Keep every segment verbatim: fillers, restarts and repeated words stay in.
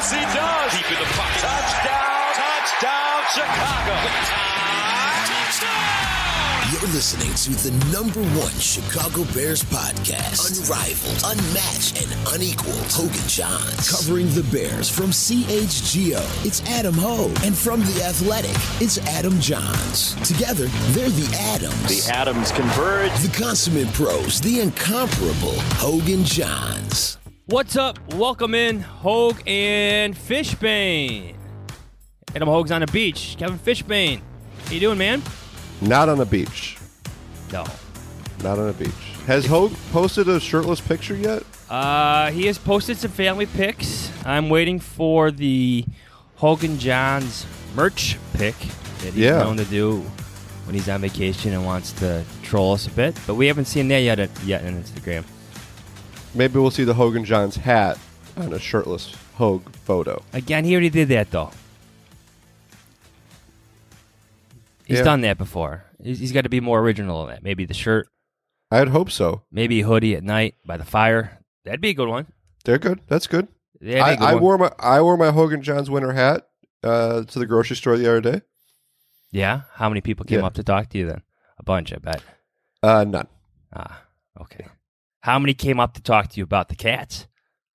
Yes, he does. Deep in the pocket. Touchdown, touchdown, Chicago. Touchdown! You're listening to the number one Chicago Bears podcast. Unrivaled, unmatched, and unequaled. Hogan Johns. Covering the Bears from C H G O, it's Adam Hogue. And from The Athletic, it's Adam Johns. Together, they're the Adams. The Adams converge. The consummate pros, the incomparable Hogan Johns. What's up? Welcome in, Hogue and Fishbane. Adam Hogue's on the beach. Kevin Fishbane. How you doing, man? Not on a beach. No. Not on a beach. Has Hogue posted a shirtless picture yet? Uh, he has posted some family pics. I'm waiting for the Hogan Johns merch pic that he's Yeah. known to do when he's on vacation and wants to troll us a bit. But we haven't seen that yet yet on Instagram. Maybe we'll see the Hogan Johns hat on a shirtless Hogue photo. Again, he already did that, though. He's Yeah. done that before. He's, he's got to be more original than that. Maybe the shirt. I'd hope so. Maybe a hoodie at night by the fire. That'd be a good one. They're good. That's good. That'd be I, a good I one. wore my I wore my Hogan Johns winter hat uh, to the grocery store the other day. Yeah? How many people came Yeah. up to talk to you then? A bunch, I bet. Uh, none. Ah, okay. How many came up to talk to you about the Cats?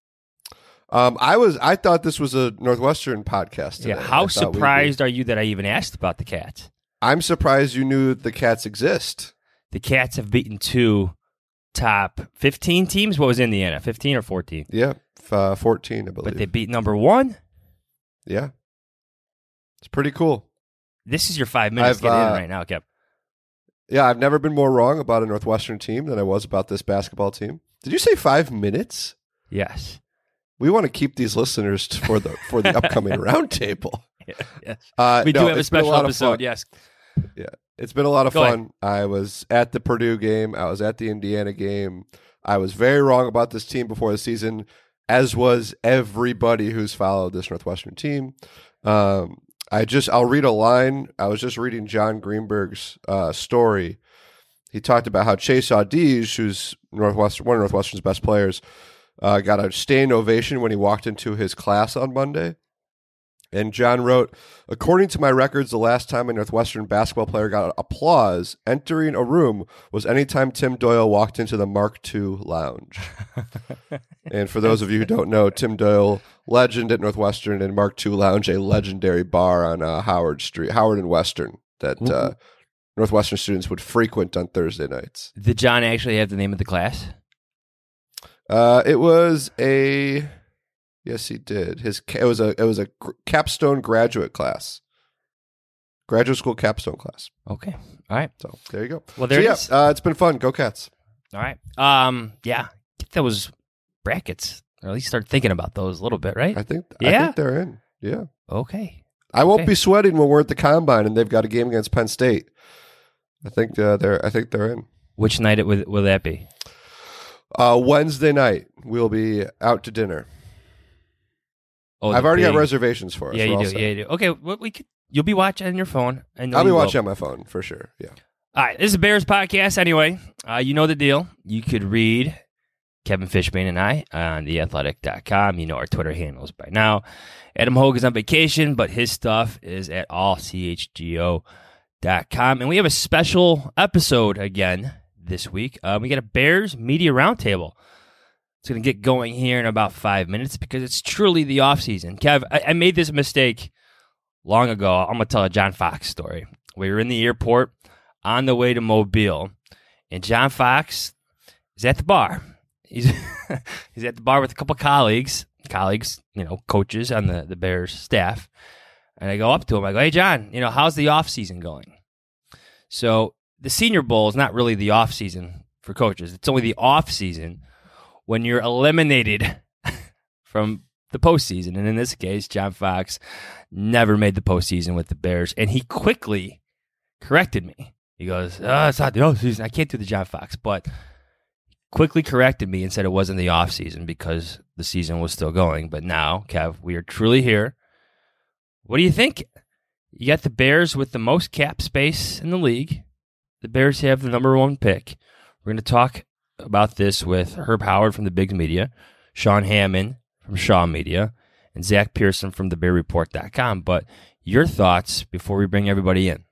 Um, I was I thought this was a Northwestern podcast today. Yeah. How I thought we'd be- surprised are you that I even asked about the Cats? I'm surprised you knew the Cats exist. The Cats have beaten two top fifteen teams. What was Indiana? fifteen or fourteen? Yeah, f- uh, fourteen, I believe. But they beat number one? yeah, it's pretty cool. This is your five minutes I've, to get in uh, right now, Kev. Yeah, I've never been more wrong about a Northwestern team than I was about this basketball team. Did you say five minutes? Yes. We want to keep these listeners t- for the for the upcoming roundtable. Yes. Uh, We no, do have a it's been special lot of episode, fun. yes. Yeah, it's been a lot of Go fun. I was at the Purdue game. I was at the Indiana game. I was very wrong about this team before the season, as was everybody who's followed this Northwestern team. Um, I just I'll read a line. I was just reading John Greenberg's uh, story. He talked about how Chase Audige, who's Northwestern, one of Northwestern's best players, uh, got a standing ovation when he walked into his class on Monday. And John wrote, according to my records, the last time a Northwestern basketball player got applause entering a room was anytime Tim Doyle walked into the Mark two lounge. And for those of you who don't know, Tim Doyle, legend at Northwestern, and Mark two lounge, a legendary bar on uh, Howard Street, Howard and Western, that uh, Northwestern students would frequent on Thursday nights. Did John actually have the name of the class? Uh, it was a... Yes, he did. His it was a it was a gr- capstone graduate class, graduate school capstone class. Okay. All right. So there you go. Well, there so, it yeah, is. Uh, it's been fun. Go Cats! All right. Um. Yeah. Get those brackets, or at least start thinking about those a little bit, right? I think Yeah? I think they're in. Yeah, Okay. I won't Okay. be sweating when we're at the combine and they've got a game against Penn State. I think uh, they're I think they're in. Which night it will, will that be? Uh, Wednesday night we'll be out to dinner. Oh, I've the already big- got reservations for us. Yeah, We're you all do. set. Yeah, you do. Okay. Well, we could. You'll be watching on your phone. I know I'll be you will. watching on my phone for sure. Yeah. All right, this is a Bears podcast anyway. Uh, you know the deal. You could read Kevin Fishbane and I on the athletic dot com. You know our Twitter handles by now. Adam Hogue is on vacation, but his stuff is at all c h g o dot com. And we have a special episode again this week. Uh, we got a Bears Media Roundtable. It's going to get going here in about five minutes because it's truly the offseason. Kev, I, I made this mistake long ago. I'm going to tell a John Fox story. We were in the airport on the way to Mobile, and John Fox is at the bar. He's he's at the bar with a couple colleagues, colleagues, you know, coaches on the, the Bears staff. And I go up to him. I go, hey, John, you know, how's the offseason going? So the Senior Bowl is not really the offseason for coaches. It's only the offseason when you're eliminated from the postseason. And in this case, John Fox never made the postseason with the Bears. And he quickly corrected me. He goes, oh, it's not the offseason. I can't do the John Fox. But quickly corrected me and said it wasn't the offseason because the season was still going. But now, Kev, we are truly here. What do you think? You got the Bears with the most cap space in the league. The Bears have the number one pick. We're going to talk about this with Herb Howard from the Bigs Media, Sean Hammond from Shaw Media, and Zach Pearson from the bear report dot com. But your thoughts before we bring everybody in.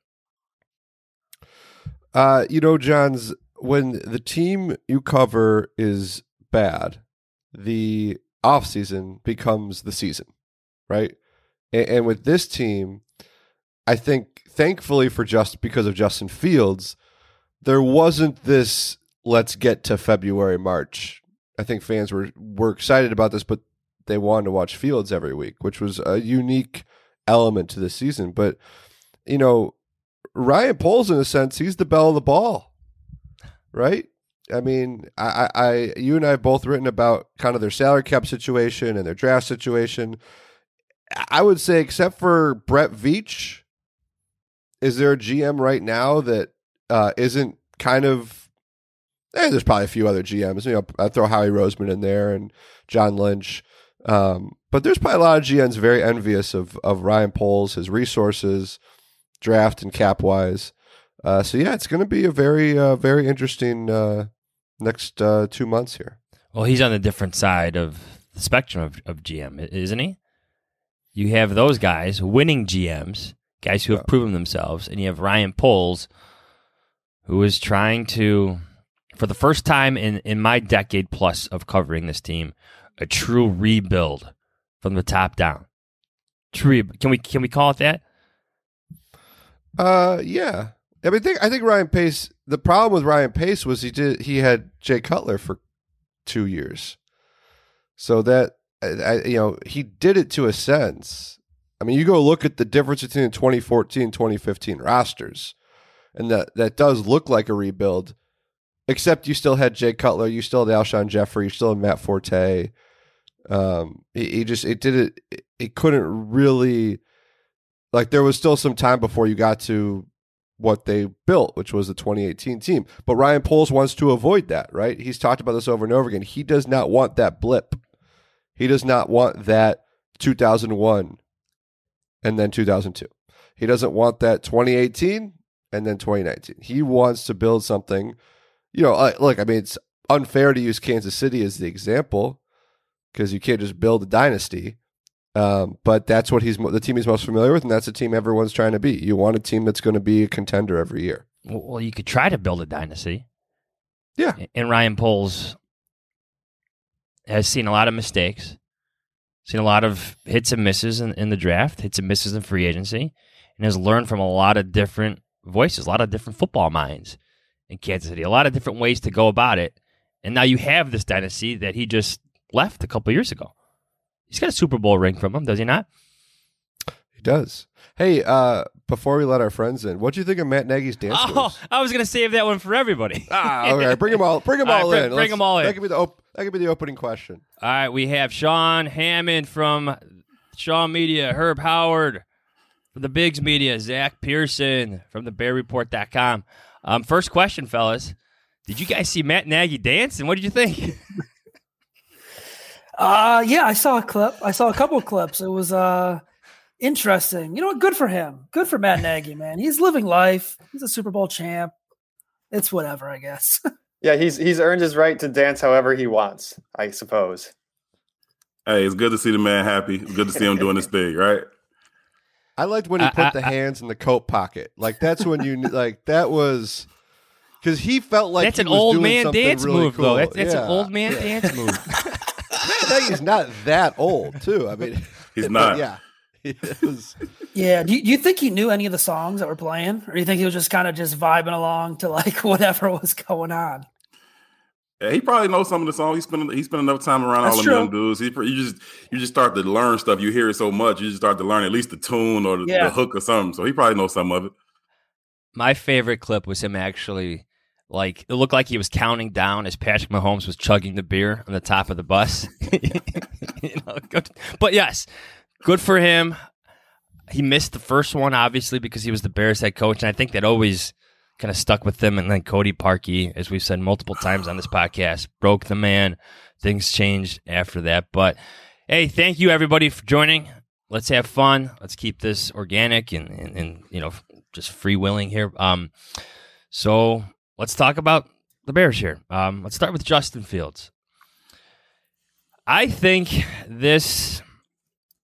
Uh, you know, Johns, when the team you cover is bad, the offseason becomes the season, right? And, and with this team, I think, thankfully for just because of Justin Fields, there wasn't this let's get to February, March. I think fans were, were excited about this, but they wanted to watch Fields every week, which was a unique element to the season. But, you know, Ryan Poles, in a sense, he's the belle of the ball, right? I mean, I, I, you and I have both written about kind of their salary cap situation and their draft situation. I would say, except for Brett Veach, is there a G M right now that uh, isn't kind of? Eh, there's probably a few other G Ms. You know, I throw Howie Roseman in there and John Lynch, um, but there's probably a lot of G Ms very envious of of Ryan Poles, his resources, draft and cap wise. Uh, so yeah, it's going to be a very, uh, very interesting uh, next uh, two months here. Well, he's on the different side of the spectrum of, of G M, isn't he? You have those guys, winning G Ms, guys who have yeah. proven themselves, and you have Ryan Poles, who is trying to, for the first time in, in my decade plus of covering this team, a true rebuild from the top down. True, can we can we call it that? Uh, yeah. I mean, I think I think Ryan Pace. The problem with Ryan Pace was he did he had Jay Cutler for two years, so that I, you know he did it to a sense. I mean, you go look at the difference between the twenty fourteen and twenty fifteen rosters, and that that does look like a rebuild. Except you still had Jay Cutler, you still had Alshon Jeffrey, you still had Matt Forte. Um, he, he just it did it. It, it couldn't really. Like, there was still some time before you got to what they built, which was the twenty eighteen team. But Ryan Poles wants to avoid that, right? He's talked about this over and over again. He does not want that blip. He does not want that two thousand one and then two thousand two. He doesn't want that twenty eighteen and then twenty nineteen. He wants to build something. You know, look, I mean, it's unfair to use Kansas City as the example because you can't just build a dynasty. Um, but that's what he's the team he's most familiar with, and that's the team everyone's trying to be. You want a team that's going to be a contender every year. Well, you could try to build a dynasty. Yeah. And Ryan Poles has seen a lot of mistakes, seen a lot of hits and misses in, in the draft, hits and misses in free agency, and has learned from a lot of different voices, a lot of different football minds in Kansas City, a lot of different ways to go about it. And now you have this dynasty that he just left a couple years ago. He's got a Super Bowl ring from him, does he not? He does. Hey, uh, before we let our friends in, what do you think of Matt Nagy's dance Oh, moves? I was going to save that one for everybody. ah, okay. Bring them all. Bring them all, all right, in. Bring, bring them all in. That could be the op- that could be the opening question. All right, we have Sean Hammond from Shaw Media, Herb Howard from the Bigs Media, Zach Pearson from the bear report dot com. Um, first question, fellas. Did you guys see Matt Nagy dance, and what did you think? Uh, yeah, I saw a clip. I saw a couple of clips. It was uh, interesting. You know what? Good for him. Good for Matt Nagy, man. He's living life. He's a Super Bowl champ. It's whatever, I guess. Yeah, he's he's earned his right to dance however he wants, I suppose. Hey, it's good to see the man happy. It's good to see him doing his thing, right? I liked when he I, put I, the I, hands in the coat pocket. Like, that's when you, like, that was, because he felt like that's he an was old doing man something dance really move, cool. though. That's, that's yeah. an old man dance move. Matt Nagy's not that old, too. I mean, he's not. Yeah. It was, Yeah. Do you, do you think he knew any of the songs that were playing? Or do you think he was just kind of just vibing along to like whatever was going on? Yeah, he probably knows some of the songs. He spent he spent enough time around That's all of true. them dudes. He, you just you just start to learn stuff. You hear it so much, you just start to learn at least the tune or the, Yeah. the hook or something. So he probably knows some of it. My favorite clip was him actually, like, it looked like he was counting down as Patrick Mahomes was chugging the beer on the top of the bus. You know, good. But yes, good for him. He missed the first one, obviously, because he was the Bears head coach, and I think that always kind of stuck with them. And then Cody Parkey, as we've said multiple times on this podcast, broke the man. Things changed after that. But, hey, thank you, everybody, for joining. Let's have fun. Let's keep this organic and, and, and you know, just freewheeling here. Um, so let's talk about the Bears here. Um, let's start with Justin Fields. I think this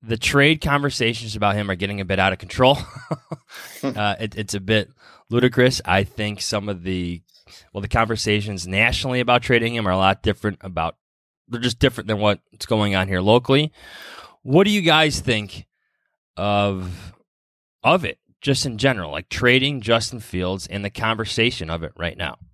the trade conversations about him are getting a bit out of control. uh, it, it's a bit ludicrous. I think some of the, well, the conversations nationally about trading him are a lot different about, they're just different than what's going on here locally. What do you guys think of, of it, just in general, like trading Justin Fields and the conversation of it right now?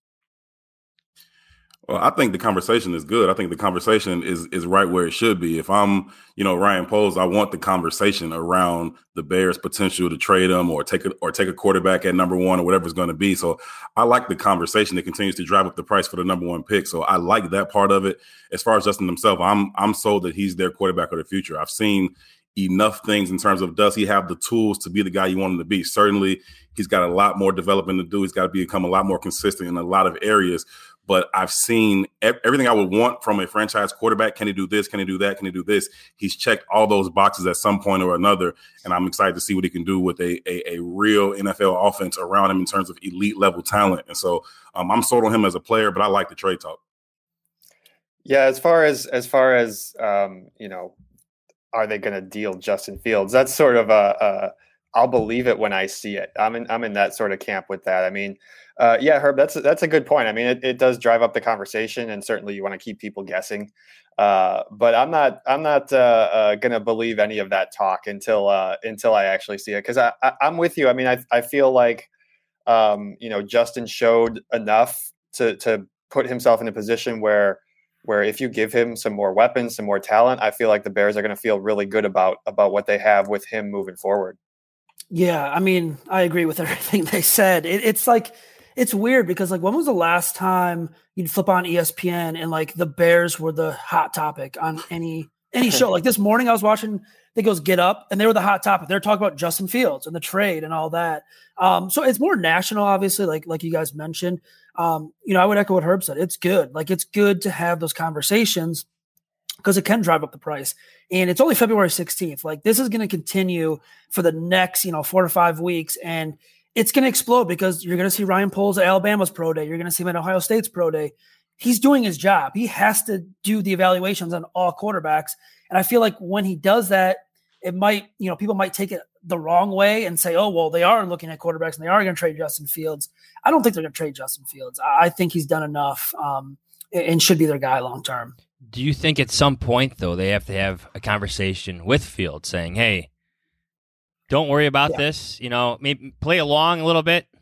Well, I think the conversation is good. I think the conversation is is right where it should be. If I'm, you know, Ryan Poles, I want the conversation around the Bears' potential to trade him or take a, or take a quarterback at number one or whatever it's going to be. So I like the conversation that continues to drive up the price for the number one pick. So I like that part of it. As far as Justin himself, I'm I'm sold that he's their quarterback of the future. I've seen enough things in terms of, does he have the tools to be the guy you want him to be? Certainly, he's got a lot more development to do. He's got to become a lot more consistent in a lot of areas. But I've seen everything I would want from a franchise quarterback. Can he do this? Can he do that? Can he do this? He's checked all those boxes at some point or another, and I'm excited to see what he can do with a a, a real N F L offense around him in terms of elite level talent. And so um, I'm sold on him as a player, but I like the trade talk. Yeah, as far as as far as um, you know, are they going to deal Justin Fields? That's sort of a, a I'll believe it when I see it. I'm in I'm in that sort of camp with that. I mean. Uh, yeah, Herb, that's that's a good point. I mean, it, it does drive up the conversation, and certainly you want to keep people guessing. Uh, but I'm not I'm not uh, uh, going to believe any of that talk until uh, until I actually see it, because I, I, I'm with you. I mean, I I feel like um, you know, Justin showed enough to to put himself in a position where where if you give him some more weapons, some more talent, I feel like the Bears are going to feel really good about about what they have with him moving forward. Yeah, I mean, I agree with everything they said. It, it's like. It's weird because, like, when was the last time you'd flip on E S P N and, like, the Bears were the hot topic on any any show? Like, this morning I was watching, I think it was Get Up, and they were the hot topic. They were talking about Justin Fields and the trade and all that. Um, so it's more national, obviously, like like you guys mentioned. Um, you know, I would echo what Herb said. It's good. Like, it's good to have those conversations because it can drive up the price. And it's only February sixteenth. Like, this is going to continue for the next, you know, four to five weeks. And it's going to explode because you're going to see Ryan Poles at Alabama's pro day. You're going to see him at Ohio State's pro day. He's doing his job. He has to do the evaluations on all quarterbacks. And I feel like when he does that, it might, you know, people might take it the wrong way and say, oh, well, they are looking at quarterbacks and they are going to trade Justin Fields. I don't think they're going to trade Justin Fields. I think he's done enough um, and should be their guy long term. Do you think at some point, though, they have to have a conversation with Fields saying, hey, don't worry about yeah. this. You know, maybe play along a little bit.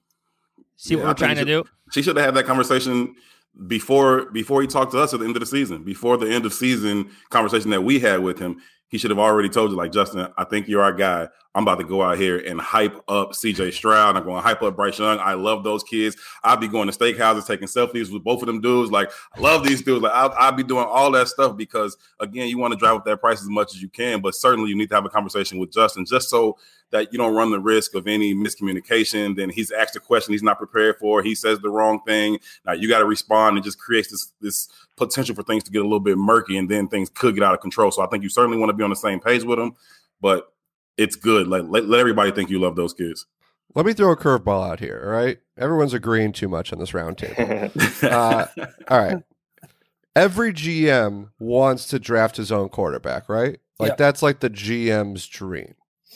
See yeah, what we're trying to do. She should have had that conversation before before he talked to us at the end of the season. Before the end of season conversation that we had with him, he should have already told you, like, Justin, I think you're our guy. I'm about to go out here and hype up C J Stroud. I'm going to hype up Bryce Young. I love those kids. I'll be going to steakhouses, taking selfies with both of them dudes. Like, I love these dudes. Like, I'll, I'll be doing all that stuff because, again, you want to drive up that price as much as you can. But certainly you need to have a conversation with Justin just so that you don't run the risk of any miscommunication. Then he's asked a question he's not prepared for. He says the wrong thing. Now you got to respond, and just creates this, this potential for things to get a little bit murky, and then things could get out of control. So I think you certainly want to be on the same page with him. But it's good. Like, let, let everybody think you love those kids. Let me throw a curveball out here, all right? Everyone's agreeing too much on this round table. uh, all right. Every G M wants to draft his own quarterback, right? Like, yeah. That's like the G M's dream.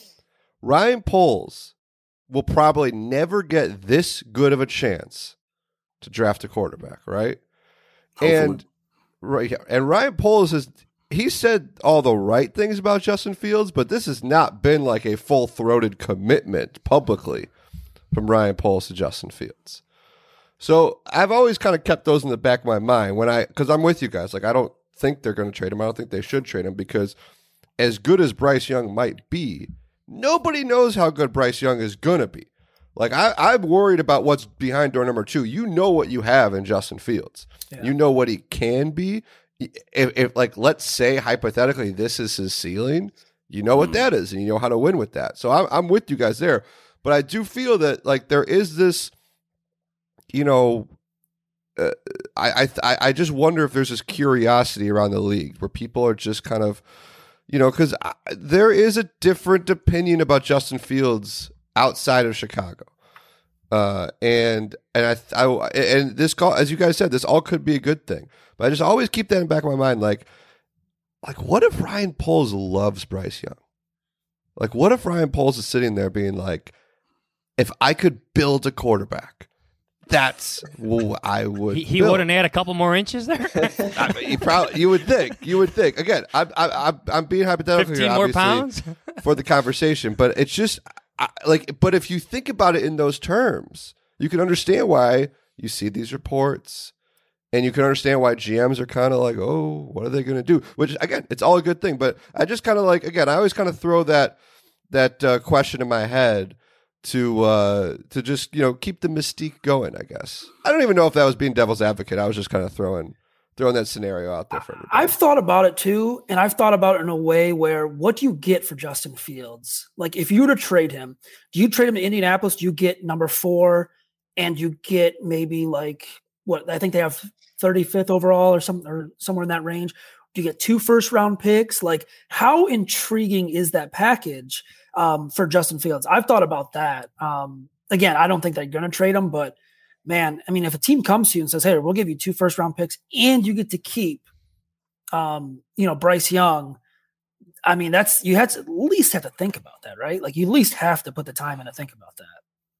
Ryan Poles will probably never get this good of a chance to draft a quarterback, right? Hopefully. And right, and Ryan Poles is he said all the right things about Justin Fields, but this has not been like a full-throated commitment publicly from Ryan Poles to Justin Fields. So I've always kind of kept those in the back of my mind when I, because I'm with you guys. Like, I don't think they're going to trade him. I don't think they should trade him because as good as Bryce Young might be, nobody knows how good Bryce Young is going to be. Like, I, I'm worried about what's behind door number two. You know what you have in Justin Fields. Yeah. You know what he can be. If, if, like, let's say, hypothetically, this is his ceiling, you know what that is, and you know how to win with that. So I'm, I'm with you guys there. But I do feel that, like, there is this, you know, uh, I, I I just wonder if there's this curiosity around the league where people are just kind of, you know, because there is a different opinion about Justin Fields outside of Chicago. Uh, and and I, I and this call, as you guys said, this all could be a good thing. But I just always keep that in the back of my mind, like, like, what if Ryan Poles loves Bryce Young? Like, what if Ryan Poles is sitting there being like, if I could build a quarterback, that's what I would. He, he build. wouldn't add a couple more inches there. I mean, you probably you would think you would think again. I'm I'm I'm being hypothetical Fifteen here, more pounds for the conversation, but it's just I, like. But if you think about it in those terms, you can understand why you see these reports, and you can understand why G Ms are kind of like, oh, what are they going to do? Which again, it's all a good thing. But I just kind of like again, I always kind of throw that that uh, question in my head. To uh, to just you know keep the mystique going, I guess. I don't even know if that was being devil's advocate. I was just kind of throwing throwing that scenario out there for everybody. I've thought about it too, and I've thought about it in a way where what do you get for Justin Fields? Like if you were to trade him, do you trade him to Indianapolis? Do you get number four, and you get maybe like what I think they have thirty-fifth overall or something or somewhere in that range? Do you get two first round picks? Like how intriguing is that package? Um, for Justin Fields, I've thought about that. Um, again, I don't think they're going to trade him, but man, I mean, if a team comes to you and says, "Hey, we'll give you two first round picks and you get to keep, um, you know, Bryce Young," I mean, that's you had to at least have to think about that, right? Like you at least have to put the time in to think about that.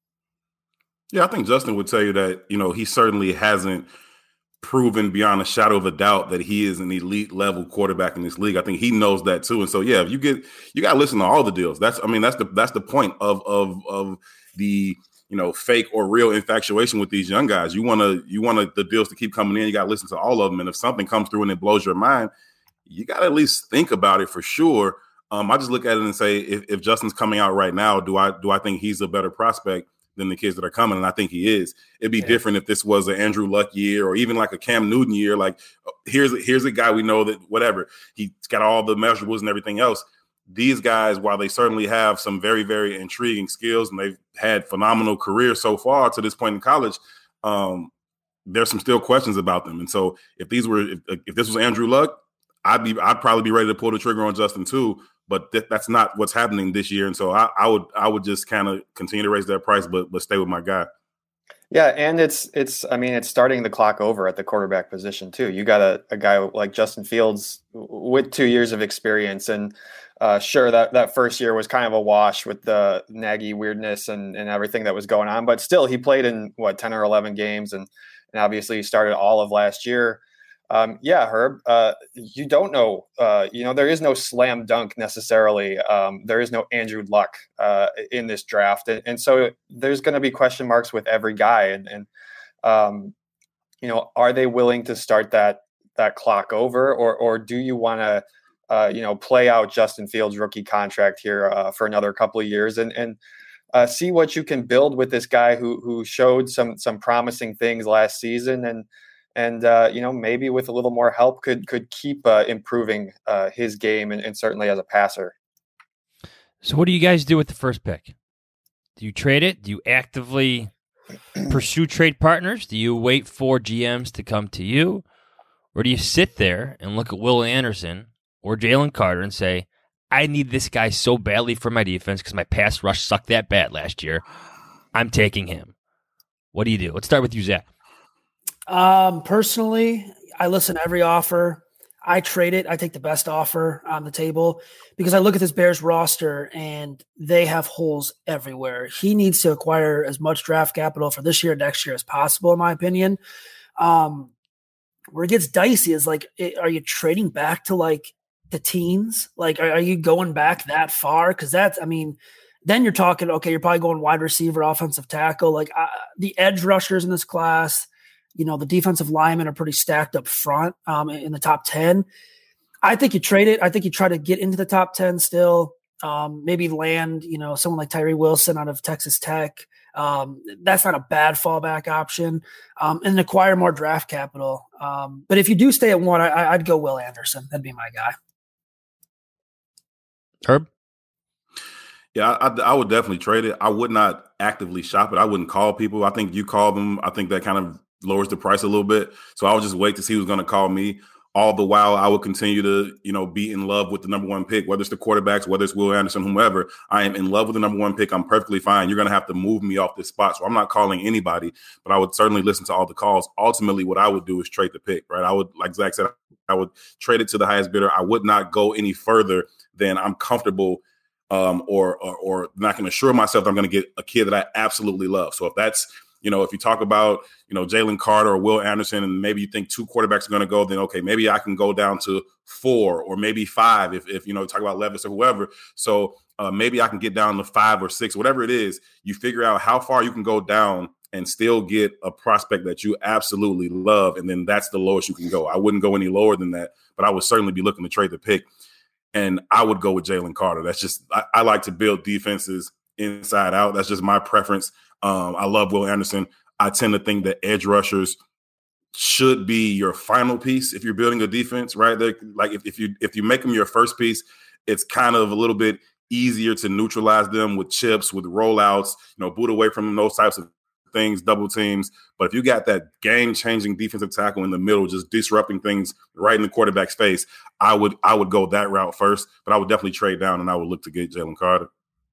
Yeah, I think Justin would tell you that you know he certainly hasn't proven beyond a shadow of a doubt that he is an elite level quarterback in this league. I think he knows that too. And so, yeah, if you get, you got to listen to all the deals. That's, I mean, that's the, that's the point of, of, of the, you know, fake or real infatuation with these young guys. You want to, you want the deals to keep coming in. You got to listen to all of them. And if something comes through and it blows your mind, you got to at least think about it for sure. Um, I just look at it and say, if, if Justin's coming out right now, do I, do I think he's a better prospect than the kids that are coming? And I think he is. It'd be yeah. different if this was an Andrew Luck year or even like a Cam Newton year. Like here's, here's a guy we know that whatever, he's got all the measurables and everything else. These guys, while they certainly have some very, very intriguing skills and they've had phenomenal careers so far to this point in college, um, there's some still questions about them. And so if these were, if, if this was Andrew Luck, I'd be, I'd probably be ready to pull the trigger on Justin too. But th- that's not what's happening this year, and so I, I would I would just kind of continue to raise that price, but but stay with my guy. Yeah, and it's it's I mean it's starting the clock over at the quarterback position too. You got a, a guy like Justin Fields with two years of experience, and uh, sure that that first year was kind of a wash with the Nagy weirdness and and everything that was going on, but still he played in what ten or eleven games, and and obviously he started all of last year. Um, yeah, Herb, uh, you don't know, uh, you know, there is no slam dunk necessarily. Um, there is no Andrew Luck uh, in this draft. And, and so there's going to be question marks with every guy. And, and um, you know, are they willing to start that that clock over? Or or do you want to, uh, you know, play out Justin Fields' rookie contract here uh, for another couple of years and, and uh, see what you can build with this guy who who showed some some promising things last season and, And, uh, you know, maybe with a little more help could could keep uh, improving uh, his game and, and certainly as a passer. So what do you guys do with the first pick? Do you trade it? Do you actively pursue trade partners? Do you wait for G Ms to come to you? Or do you sit there and look at Will Anderson or Jalen Carter and say, I need this guy so badly for my defense because my pass rush sucked that bad last year. I'm taking him. What do you do? Let's start with you, Zach. Um, personally, I listen to every offer. I trade it. I take the best offer on the table because I look at this Bears roster and they have holes everywhere. He needs to acquire as much draft capital for this year, next year as possible, in my opinion. Um, where it gets dicey is like, are you trading back to like the teens? Like, are, are you going back that far? Cause that's, I mean, then you're talking, okay, you're probably going wide receiver, offensive tackle, like uh, the edge rushers in this class. You know, the defensive linemen are pretty stacked up front um, in the top ten. I think you trade it. I think you try to get into the top ten still. Um, maybe land, you know, someone like Tyree Wilson out of Texas Tech. Um, that's not a bad fallback option. Um, and acquire more draft capital. Um, but if you do stay at one, I, I'd go Will Anderson. That'd be my guy. Herb? Yeah, I, I would definitely trade it. I would not actively shop it. I wouldn't call people. I think you call them. I think that kind of lowers the price a little bit. So I would just wait to see who's going to call me. All the while, I will continue to, you know, be in love with the number one pick, whether it's the quarterbacks, whether it's Will Anderson, whomever. I am in love with the number one pick. I'm perfectly fine. You're going to have to move me off this spot. So I'm not calling anybody, but I would certainly listen to all the calls. Ultimately, what I would do is trade the pick, right? I would, like Zach said, I would trade it to the highest bidder. I would not go any further than I'm comfortable um, or, or, or not can assure myself that I'm going to get a kid that I absolutely love. So if that's, you know, if you talk about, you know, Jalen Carter or Will Anderson, and maybe you think two quarterbacks are going to go, then, okay, maybe I can go down to four or maybe five if, if you know, talk about Levis or whoever. So uh, maybe I can get down to five or six, whatever it is. You figure out how far you can go down and still get a prospect that you absolutely love. And then that's the lowest you can go. I wouldn't go any lower than that, but I would certainly be looking to trade the pick. And I would go with Jalen Carter. That's just, I, I like to build defenses inside out. That's just my preference. Um, I love Will Anderson. I tend to think that edge rushers should be your final piece if you're building a defense, right? They're, like if, if you if you make them your first piece, it's kind of a little bit easier to neutralize them with chips, with rollouts, you know, boot away from them, those types of things, double teams. But if you got that game-changing defensive tackle in the middle, just disrupting things right in the quarterback's face, I would I would go that route first. But I would definitely trade down and I would look to get Jalen Carter.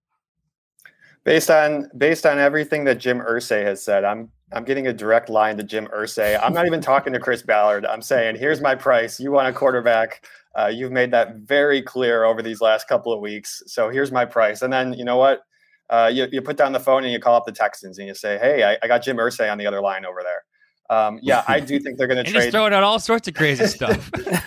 Based on based on everything that Jim Irsay has said, I'm I'm getting a direct line to Jim Irsay. I'm not even talking to Chris Ballard. I'm saying, here's my price. You want a quarterback. Uh, you've made that very clear over these last couple of weeks. So here's my price. And then, you know what? Uh, you, you put down the phone and you call up the Texans and you say, hey, I, I got Jim Irsay on the other line over there. Um, yeah, I do think they're going to trade. Just throwing out all sorts of crazy stuff.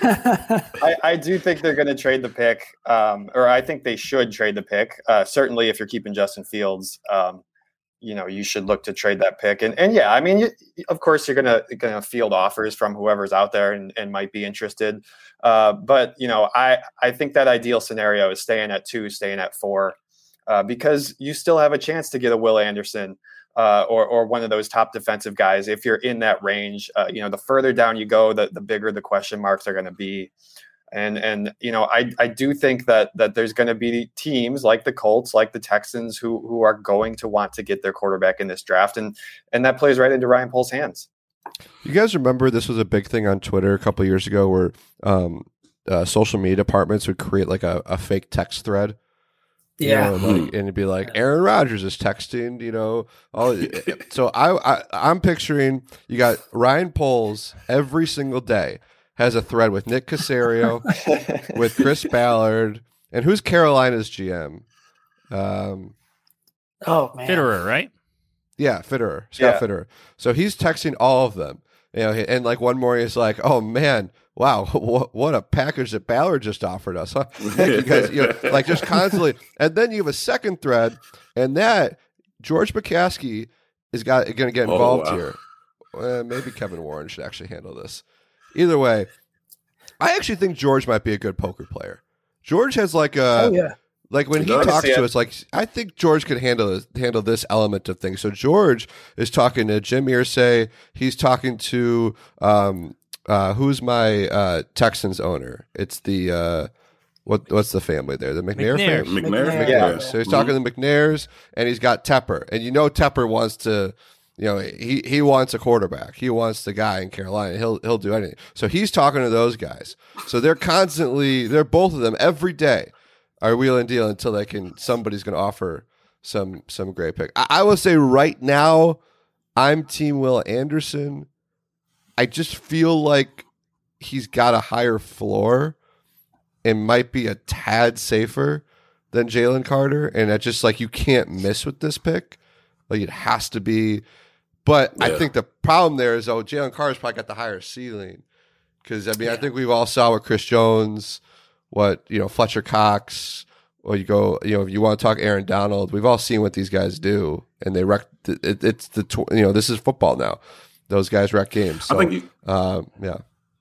I, I do think they're going to trade the pick, um, or I think they should trade the pick. Uh, certainly, if you're keeping Justin Fields, um, you know, you should look to trade that pick. And and yeah, I mean, you, of course, you're going to going to field offers from whoever's out there and, and might be interested. Uh, but you know, I I think that ideal scenario is staying at two, staying at four, uh, because you still have a chance to get a Will Anderson. Uh, or or one of those top defensive guys, if you're in that range. Uh, you know, the further down you go, the, the bigger the question marks are going to be. And, and you know, I, I do think that that there's going to be teams like the Colts, like the Texans, who who are going to want to get their quarterback in this draft. And, and that plays right into Ryan Poles' hands. You guys remember this was a big thing on Twitter a couple of years ago where um, uh, social media departments would create like a, a fake text thread. Yeah, you know, like, and it'd be like Aaron Rodgers is texting, you know. All so I, I I'm picturing you got Ryan Poles every single day has a thread with Nick Caserio, with Chris Ballard, and who's Carolina's G M? Um, oh man, Fitterer, right? Yeah, Fitterer, Scott Yeah. Fitterer. So he's texting all of them, you know. And like one morning, it's like, oh man. Wow, what, what a package that Ballard just offered us, huh? Because you know, like just constantly, and then you have a second thread, and that George McCaskey is got going to get involved oh, wow. here. Uh, maybe Kevin Warren should actually handle this. Either way, I actually think George might be a good poker player. George has like a, oh, yeah. like when he talks to us, like I think George could handle this, handle this element of things. So George is talking to Jim Irsay. He's talking to. Um, Uh, who's my uh, Texans owner? It's the uh, what? What's the family there? The McNair, McNair. family. McNair. McNair. Yeah. So he's talking to the McNairs, and he's got Tepper, and you know Tepper wants to, you know, he he wants a quarterback. He wants the guy in Carolina. He'll he'll do anything. So he's talking to those guys. So they're constantly, they're both of them every day are wheeling and dealing until they can. Somebody's going to offer some some great pick. I, I will say right now, I'm Team Will Anderson. I just feel like he's got a higher floor and might be a tad safer than Jalen Carter. And it's just like you can't miss with this pick. Like it has to be. But yeah. I think the problem there is, oh, Jalen Carter's probably got the higher ceiling. Because, I mean, yeah. I think we've all saw what Chris Jones, what, you know, Fletcher Cox, or you go, you know, if you want to talk Aaron Donald, we've all seen what these guys do. And they wreck, it, it's the, you know, this is football now. Those guys wreck games. So, I think you, um, yeah.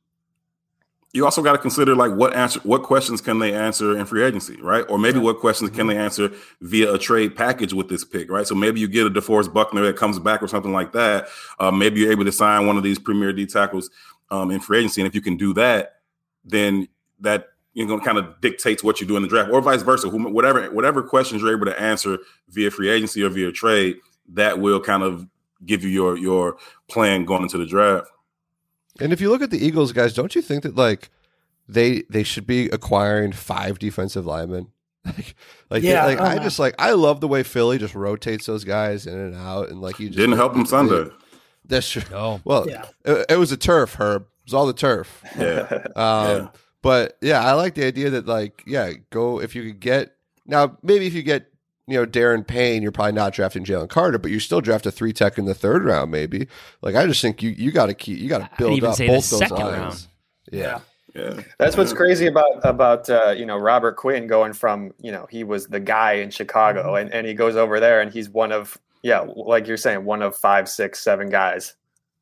You also got to consider like what answer, what questions can they answer in free agency, right? Or maybe what questions can they answer via a trade package with this pick, right? So maybe you get a DeForest Buckner that comes back or something like that. Uh, maybe you're able to sign one of these premier D tackles um, in free agency, and if you can do that, then that you know kind of dictates what you do in the draft, or vice versa. Whatever whatever questions you're able to answer via free agency or via trade, that will kind of give you your your plan going into the draft. And if you look at the Eagles, guys, don't you think that like they they should be acquiring five defensive linemen? like, like, yeah, like oh, I man. just like I love the way Philly just rotates those guys in and out, and like you just, Didn't help him Sunday. That's true. No. Well, Yeah. it, it was a turf, Herb. It was all the turf. Yeah. Um, Yeah. But yeah, I like the idea that like, yeah, go if you could get now. Maybe if you get you know Darren Payne, you're probably not drafting Jalen Carter, but you still draft a three tech in the third round, maybe. Like I just think you you got to keep you got to I'd build even up say the both those second lines. round. Yeah. Yeah. That's what's crazy about about uh, you know Robert Quinn going from you know he was the guy in Chicago and, and he goes over there and he's one of yeah like you're saying one of five six seven guys.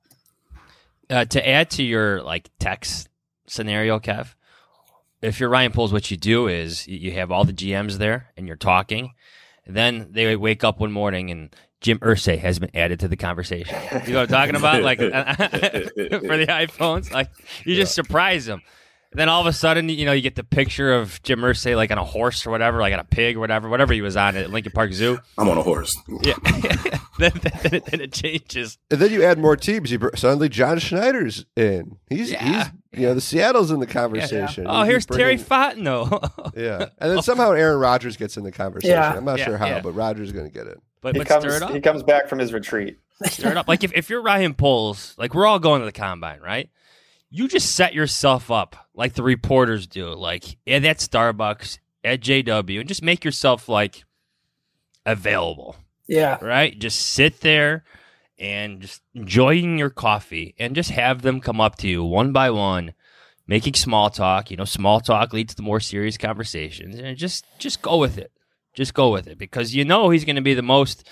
Uh, to add to your like text scenario, Kev, if you're Ryan Poles, what you do is you have all the G Ms there and you're talking. Then they wake up one morning and Jim Irsay has been added to the conversation. You know what I'm talking about? Like for the iPhones, like you just yeah. surprise them. And then all of a sudden, you know, you get the picture of Jim Irsay like on a horse or whatever, like on a pig or whatever, whatever he was on at Lincoln Park Zoo. I'm on a horse. Yeah. then, then, it, then it changes. And then you add more teams. You, suddenly John Schneider's in. He's Yeah. he's you know the Seattle's in the conversation. Yeah. Oh, He's here's bringing- Terry Fontenot. Yeah, and then somehow Aaron Rodgers gets in the conversation. Yeah. I'm not Yeah, sure how, yeah. but Rodgers is going to get in. But, He but comes stir it up. he comes back from his retreat. Stir it up. Like if, if you're Ryan Poles, like we're all going to the combine, right? You just set yourself up like the reporters do, like at that Starbucks, at J W, and just make yourself like available, Yeah. right? Just sit there and just enjoying your coffee and just have them come up to you one by one, making small talk. You know, small talk leads to more serious conversations, and just just go with it. Just go with it because you know he's going to be the most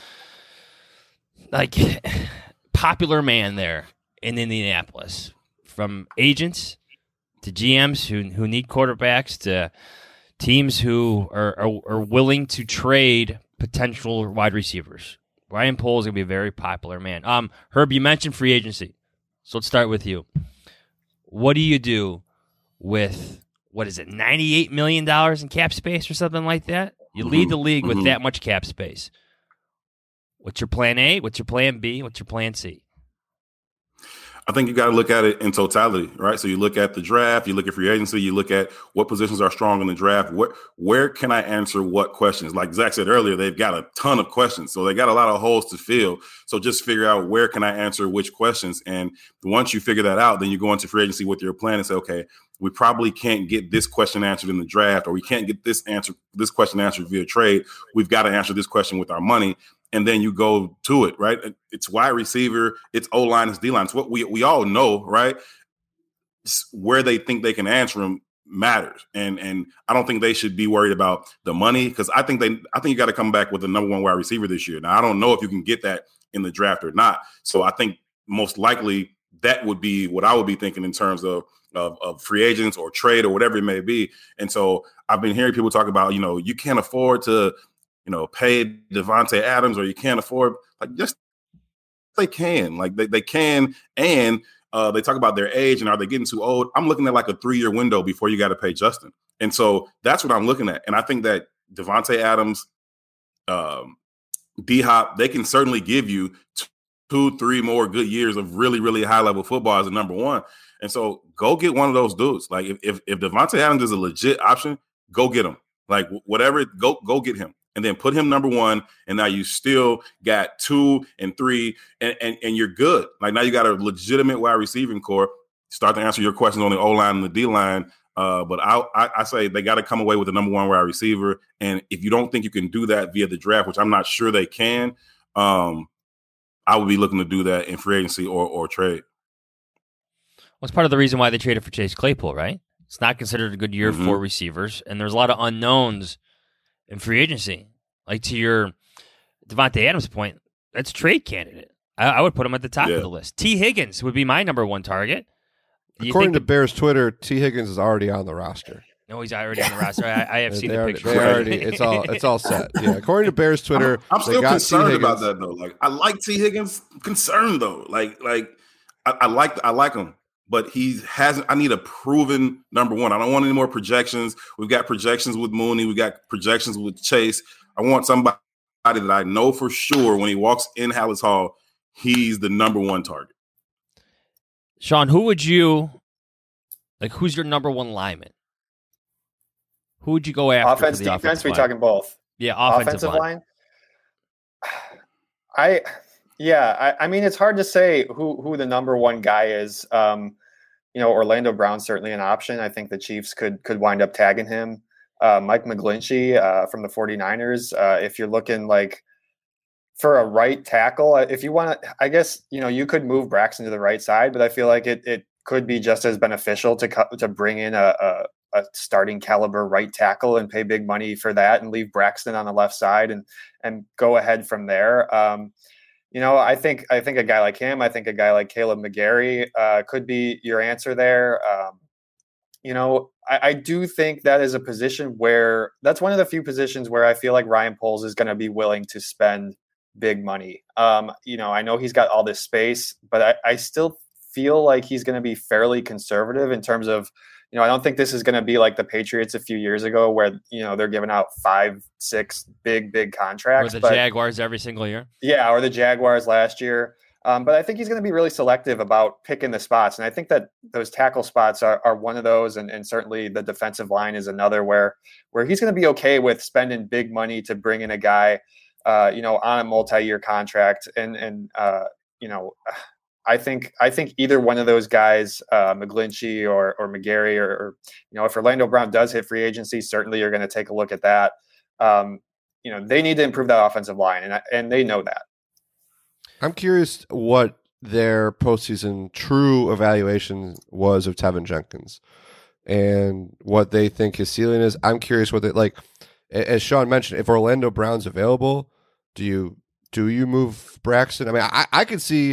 like popular man there in Indianapolis. From agents to G Ms who who need quarterbacks to teams who are, are, are willing to trade potential wide receivers. Ryan Poles is going to be a very popular man. Um, Herb, you mentioned free agency. So let's start with you. What do you do with, what is it, ninety-eight million dollars in cap space or something like that? You lead the league with Mhm. that much cap space. What's your plan A? What's your plan B? What's your plan C? I think you got to look at it in totality, right? So you look at the draft, you look at free agency, you look at what positions are strong in the draft. What, where can I answer what questions? Like Zach said earlier, they've got a ton of questions, so they got a lot of holes to fill. So just figure out where can I answer which questions, and once you figure that out, then you go into free agency with your plan and say, okay, we probably can't get this question answered in the draft, or we can't get this answer, this question answered via trade. We've got to answer this question with our money. And then you go to it, right? It's wide receiver, it's O-line, it's D-line. It's what we we all know, right? It's where they think they can answer them matters. And and I don't think they should be worried about the money, because I think they I think you got to come back with the number one wide receiver this year. Now, I don't know if you can get that in the draft or not. So I think most likely that would be what I would be thinking in terms of Of, of free agents or trade or whatever it may be. And so I've been hearing people talk about, you know, you can't afford to, you know, pay Devontae Adams, or you can't afford, like, just they can, like they, they can. And uh, they talk about their age and are they getting too old? I'm looking at like a three year window before you got to pay Justin. And so that's what I'm looking at. And I think that Devontae Adams, um, D-Hop, they can certainly give you two, three more good years of really, really high level football as a number one. And so go get one of those dudes. Like if if, if Devontae Adams is a legit option, go get him. Like whatever, go go get him. And then put him number one. And now you still got two and three, and, and, and you're good. Like now you got a legitimate wide receiving core. Start to answer your questions on the O-line and the D-line. Uh, but I, I, I say they got to come away with the number one wide receiver. And if you don't think you can do that via the draft, which I'm not sure they can, um, I would be looking to do that in free agency or or trade. Well, it's part of the reason why they traded for Chase Claypool, right? It's not considered a good year Mm-hmm. for receivers, and there's a lot of unknowns in free agency. Like to your Devontae Adams point, that's trade candidate. I, I would put him at the top Yeah. of the list. T. Higgins would be my number one target. Do you According to think Bears Twitter, T. Higgins is already on the roster. the, no, he's already on the roster. I, I have seen they the already, picture. they already, it's all it's all set. Yeah, according to Bears Twitter, I'm, I'm they still got T. concerned about Higgins. that though. Like I like T. Higgins. Concerned though. Like like I, I like I like him, but he hasn't. I need a proven number one. I don't want any more projections. We've got projections with Mooney. We got projections with Chase. I want somebody that I know for sure when he walks in Hallis Hall, he's the number one target. Sean, who would you like? Who's your number one lineman? Who would you go after? Offense, for the defense. We line? talking both. Yeah, offensive, offensive line. line. I, yeah, I, I mean, it's hard to say who who the number one guy is. Um, you know, Orlando Brown's certainly an option. I think the Chiefs could could wind up tagging him. Uh, Mike McGlinchey uh, from the 49ers. Uh, if you're looking like for a right tackle, if you want to, I guess, you know, you could move Braxton to the right side, but I feel like it it could be just as beneficial to co- to bring in a, a, a starting caliber right tackle and pay big money for that and leave Braxton on the left side and and go ahead from there. Um, you know, I think I think a guy like him, I think a guy like Caleb McGarry uh, could be your answer there. Um, you know, I, I do think that is a position where that's one of the few positions where I feel like Ryan Poles is going to be willing to spend big money. Um, you know, I know he's got all this space, but I, I still feel like he's going to be fairly conservative in terms of, you know, I don't think this is going to be like the Patriots a few years ago where, you know, they're giving out five, six big, big contracts. Or the but, Jaguars every single year. Yeah, or the Jaguars last year. Um, but I think he's going to be really selective about picking the spots. And I think that those tackle spots are, are one of those. And, and certainly the defensive line is another where, where he's going to be okay with spending big money to bring in a guy, uh, you know, on a multi-year contract. And, and uh, you know, I think I think either one of those guys, uh, McGlinchey or or McGarry, or, or, you know, if Orlando Brown does hit free agency, certainly you're going to take a look at that. Um, you know, they need to improve that offensive line, and and they know that. I'm curious what their postseason true evaluation was of Tevin Jenkins and what they think his ceiling is. I'm curious what they like. As Sean mentioned, if Orlando Brown's available, do you do you move Braxton? I mean, I, I could see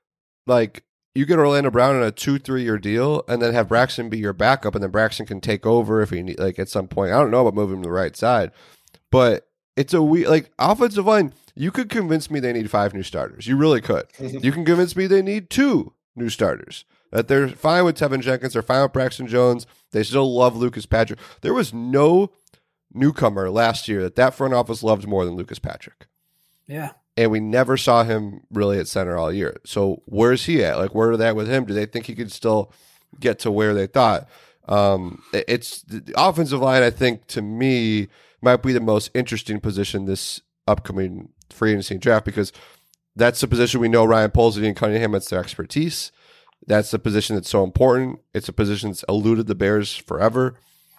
like you get Orlando Brown in a two, three year deal and then have Braxton be your backup, and then Braxton can take over if he need, like at some point. I don't know about moving him to the right side, but it's a we like offensive line. You could convince me they need five new starters. You really could. You can convince me they need two new starters. That they're fine with Tevin Jenkins. They're fine with Braxton Jones. They still love Lucas Patrick. There was no newcomer last year that that front office loved more than Lucas Patrick. Yeah. And we never saw him really at center all year. So where's he at? Like, where are they at with him? Do they think he could still get to where they thought? Um, it's the offensive line, I think, to me, might be the most interesting position this upcoming free agency draft, because that's the position we know Ryan Poles and Ian Cunningham, it's their expertise. That's the position that's so important. It's a position that's eluded the Bears forever.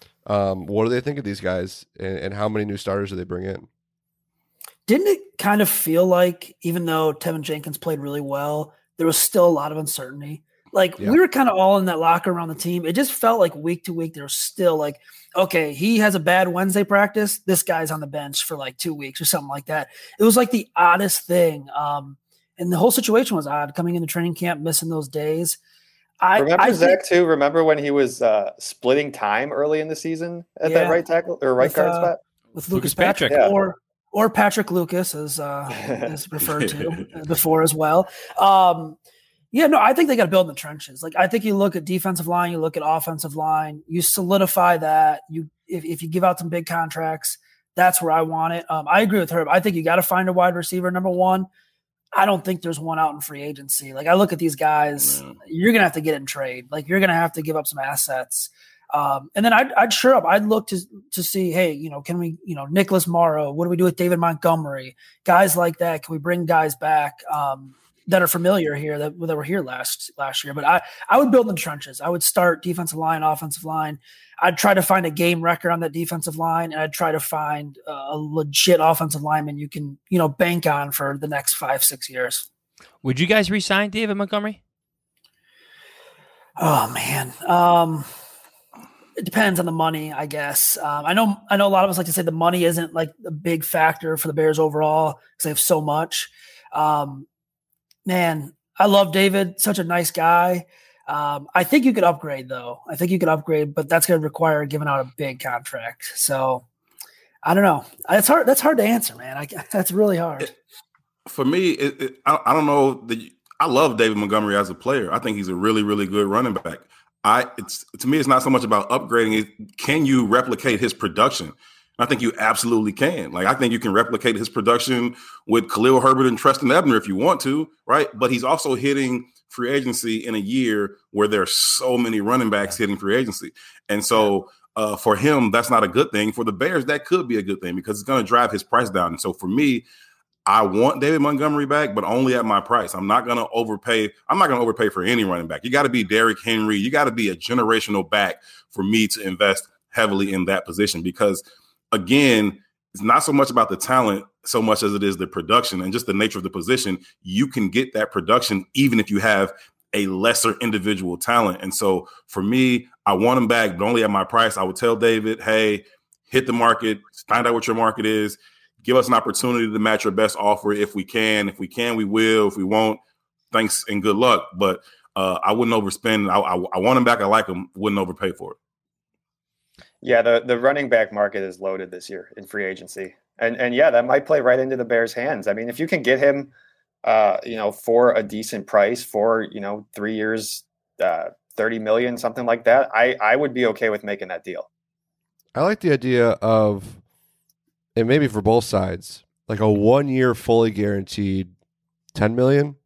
Um, what do they think of these guys, and, and how many new starters do they bring in? Didn't it kind of feel like, even though Tevin Jenkins played really well, there was still a lot of uncertainty? Like, yeah. we were kind of all in that locker around the team. It just felt like week to week, there was still like, okay, he has a bad Wednesday practice. This guy's on the bench for like two weeks or something like that. It was like the oddest thing. Um, and the whole situation was odd, coming into training camp, missing those days. I remember I Zach think, too. Remember when he was uh, splitting time early in the season at yeah, that right tackle or right with, guard uh, spot with Lucas, Lucas Patrick, Patrick. Yeah. or or Patrick Lucas, as uh, as referred to before as well. Um, yeah, no, I think they got to build in the trenches. Like, I think you look at defensive line, you look at offensive line, you solidify that. You if, if you give out some big contracts, that's where I want it. Um, I agree with Herb. I think you got to find a wide receiver, number one. I don't think there's one out in free agency. Like, I look at these guys, oh, you're going to have to get in trade. Like, you're going to have to give up some assets. Um, and then I'd, I'd sure up. I'd look to to see, hey, you know, can we, you know, Nicholas Morrow, what do we do with David Montgomery? Guys like that. Can we bring guys back um, that are familiar here that, that were here last last year? But I, I would build in the trenches. I would start defensive line, offensive line. I'd try to find a game record on that defensive line, and I'd try to find a legit offensive lineman you can, you know, bank on for the next five, six years. Would you guys re-sign David Montgomery? Oh man, um, it depends on the money, I guess. Um, I know, I know, a lot of us like to say the money isn't like a big factor for the Bears overall because they have so much. Um, man, I love David; such a nice guy. Um, I think you could upgrade, though. I think you could upgrade, but that's going to require giving out a big contract. So I don't know. It's hard. That's hard to answer, man. I, that's really hard. For me, it, it, I, I don't know. The, I love David Montgomery as a player. I think he's a really, really good running back. I it's to me, it's not so much about upgrading it. Can you replicate his production? I think you absolutely can. Like, I think you can replicate his production with Khalil Herbert and Treston Ebner if you want to, right? But he's also hitting free agency in a year where there are so many running backs hitting free agency. And so uh, for him, that's not a good thing. For the Bears, that could be a good thing because it's going to drive his price down. And so for me, I want David Montgomery back, but only at my price. I'm not going to overpay. I'm not going to overpay for any running back. You got to be Derrick Henry. You got to be a generational back for me to invest heavily in that position because, again, it's not so much about the talent so much as it is the production and just the nature of the position. You can get that production even if you have a lesser individual talent. And so for me, I want him back, but only at my price. I would tell David, hey, hit the market, find out what your market is. Give us an opportunity to match your best offer if we can. If we can, we will. If we won't, thanks and good luck. But uh, I wouldn't overspend. I, I, I want him back. I like him. Wouldn't overpay for it. Yeah, the, the running back market is loaded this year in free agency. And, and yeah, that might play right into the Bears' hands. I mean, if you can get him, uh, you know, for a decent price for, you know, three years, uh, thirty million, something like that, I, I would be okay with making that deal. I like the idea of, and maybe for both sides, like a one-year fully guaranteed ten million,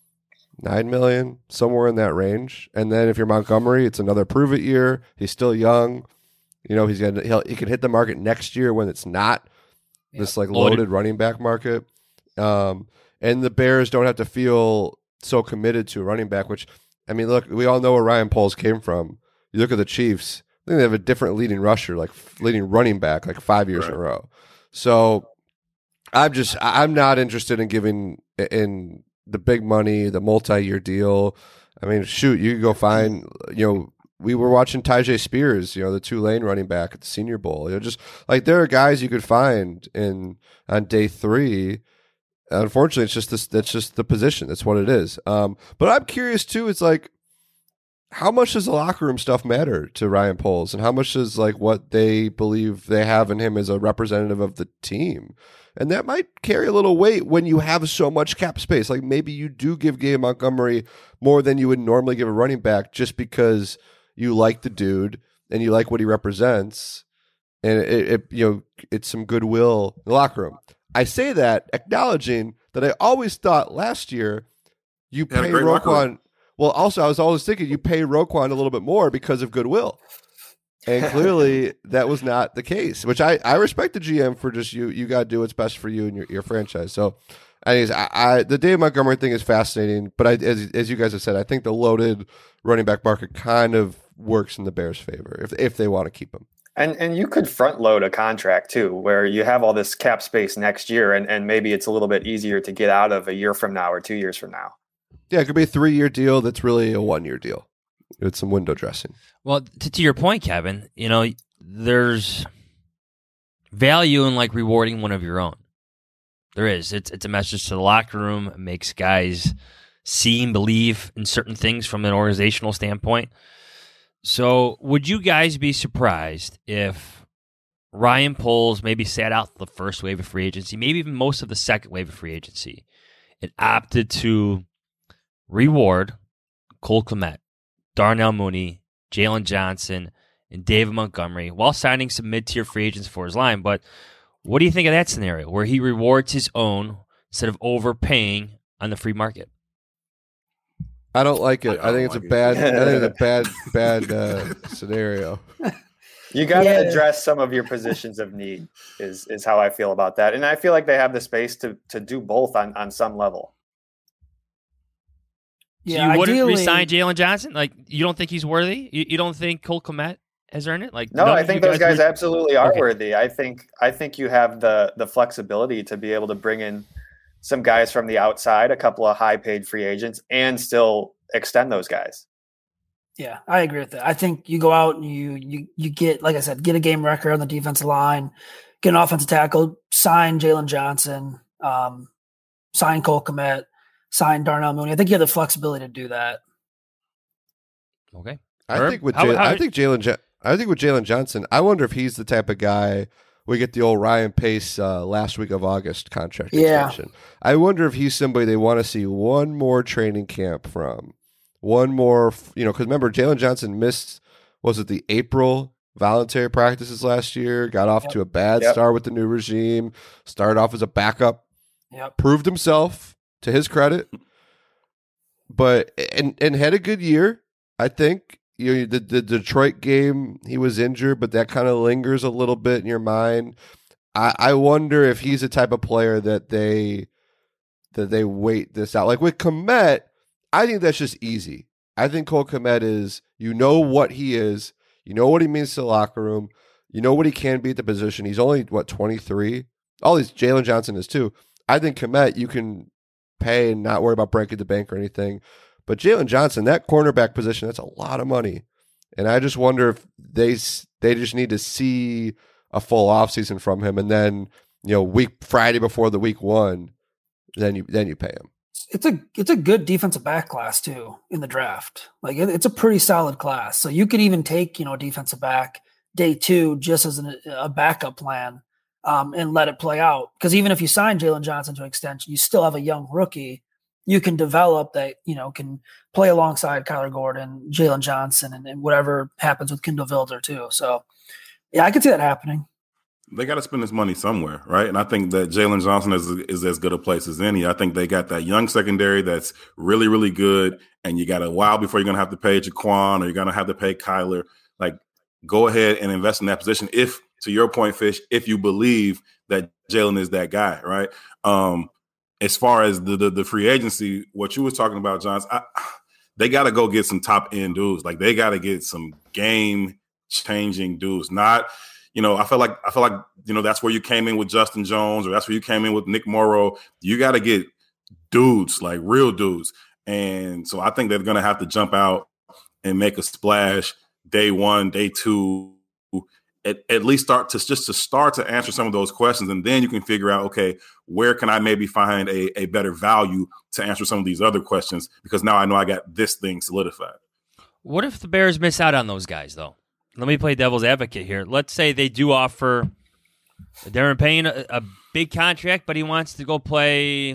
nine million, somewhere in that range. And then if you're Montgomery, it's another prove-it year. He's still young. You know, he's gonna he'll, he can hit the market next year when it's not yeah. this like loaded, loaded running back market. Um, and the Bears don't have to feel so committed to a running back. Which, I mean, look, we all know where Ryan Poles came from. You look at the Chiefs; I think they have a different leading rusher, like leading running back, like five years right. in a row. So I'm just I'm not interested in giving in the big money, the multi-year deal. I mean, shoot, you could go find, you know, we were watching Tyjae Spears, you know, the Tulane running back at the Senior Bowl. You know, just like there are guys you could find in on day three. Unfortunately, it's just this. That's just the position. That's what it is. Um, but I'm curious too. It's like, how much does the locker room stuff matter to Ryan Poles, and how much does like what they believe they have in him as a representative of the team? And that might carry a little weight when you have so much cap space. Like maybe you do give Gabe Montgomery more than you would normally give a running back just because you like the dude and you like what he represents, and it, it you know it's some goodwill in the locker room. I say that acknowledging that I always thought last year you yeah, pay Roquan. Well, also, I was always thinking you pay Roquan a little bit more because of goodwill. And clearly that was not the case, which I, I respect the G M for just you. You got to do what's best for you and your, your franchise. So, anyways, I, I, the Dave Montgomery thing is fascinating. But I, as, as you guys have said, I think the loaded running back market kind of works in the Bears' favor if if they want to keep him. And and you could front load a contract too, where you have all this cap space next year, and, and maybe it's a little bit easier to get out of a year from now or two years from now. Yeah, it could be a three-year deal that's really a one-year deal. It's some window dressing. Well, to, to your point, Kevin, you know, there's value in like rewarding one of your own. There is. It's it's a message to the locker room. It makes guys see and believe in certain things from an organizational standpoint. So would you guys be surprised if Ryan Poles maybe sat out the first wave of free agency, maybe even most of the second wave of free agency, and opted to reward Cole Kmet, Darnell Mooney, Jalen Johnson, and David Montgomery while signing some mid-tier free agents for his line? But what do you think of that scenario where he rewards his own instead of overpaying on the free market? I don't like it. I, I think it's like a bad. It. I think it's a bad, bad uh, scenario. You got to yeah. address some of your positions of need. Is is how I feel about that, and I feel like they have the space to to do both on on some level. So yeah, you wouldn't ideally, re-sign Jalen Johnson? Like, you don't think he's worthy? You, you don't think Cole Kmet has earned it? Like, no, I think those guys, guys absolutely are okay. worthy. I think I think you have the the flexibility to be able to bring in some guys from the outside, a couple of high paid free agents, and still extend those guys. Yeah, I agree with that. I think you go out and you you you get, like I said, get a game record on the defensive line, get an offensive tackle, sign Jalen Johnson, um, sign Cole Kmet, sign Darnell Mooney. I think you have the flexibility to do that. Okay. I Herb, think with how, Jay, how, I think Jalen I think with Jalen Johnson, I wonder if he's the type of guy we get the old Ryan Pace uh, last week of August contract yeah. extension. I wonder if he's somebody they want to see one more training camp from, one more, you know, because remember Jalen Johnson missed, was it the April voluntary practices last year, got off Yep. to a bad Yep. start with the new regime, started off as a backup, Yep. proved himself to his credit, but and and had a good year. I think you know, the the Detroit game he was injured, but that kind of lingers a little bit in your mind. I, I wonder if he's the type of player that they that they wait this out. Like with Kmet, I think that's just easy. I think Cole Kmet is, you know what he is, you know what he means to the locker room, you know what he can be at the position. He's only what twenty-three. All these Jalen Johnson is too. I think Kmet you can pay and not worry about breaking the bank or anything. But Jalen Johnson, that cornerback position, that's a lot of money. And I just wonder if they they just need to see a full offseason from him, and then, you know, week Friday before the week one, then you then you pay him. It's a it's a good defensive back class too in the draft. Like it, it's a pretty solid class. So you could even take, you know, a defensive back day two just as an, a backup plan um, and let it play out. Because even if you sign Jalen Johnson to an extension, you still have a young rookie you can develop that, you know, can play alongside Kyler Gordon, Jalen Johnson, and, and whatever happens with Kindle Wilder too. So yeah, I could see that happening. They got to spend this money somewhere, right? And I think that Jalen Johnson is is as good a place as any. I think they got that young secondary that's really, really good, and you got a while before you're going to have to pay Jaquan or you're going to have to pay Kyler. Like, go ahead and invest in that position if, to your point, Fish, if you believe that Jalen is that guy, right? Um, as far as the, the the free agency, what you was talking about, Johns, I, they got to go get some top-end dudes. Like, they got to get some game-changing dudes, not – You know, I feel like I feel like you know that's where you came in with Justin Jones, or that's where you came in with Nick Morrow. You got to get dudes, like real dudes, and so I think they're going to have to jump out and make a splash day one, day two, at, at least start to just to start to answer some of those questions, and then you can figure out, okay, where can I maybe find a, a better value to answer some of these other questions, because now I know I got this thing solidified. What if the Bears miss out on those guys, though? Let me play devil's advocate here. Let's say they do offer Darren Payne a, a big contract, but he wants to go play,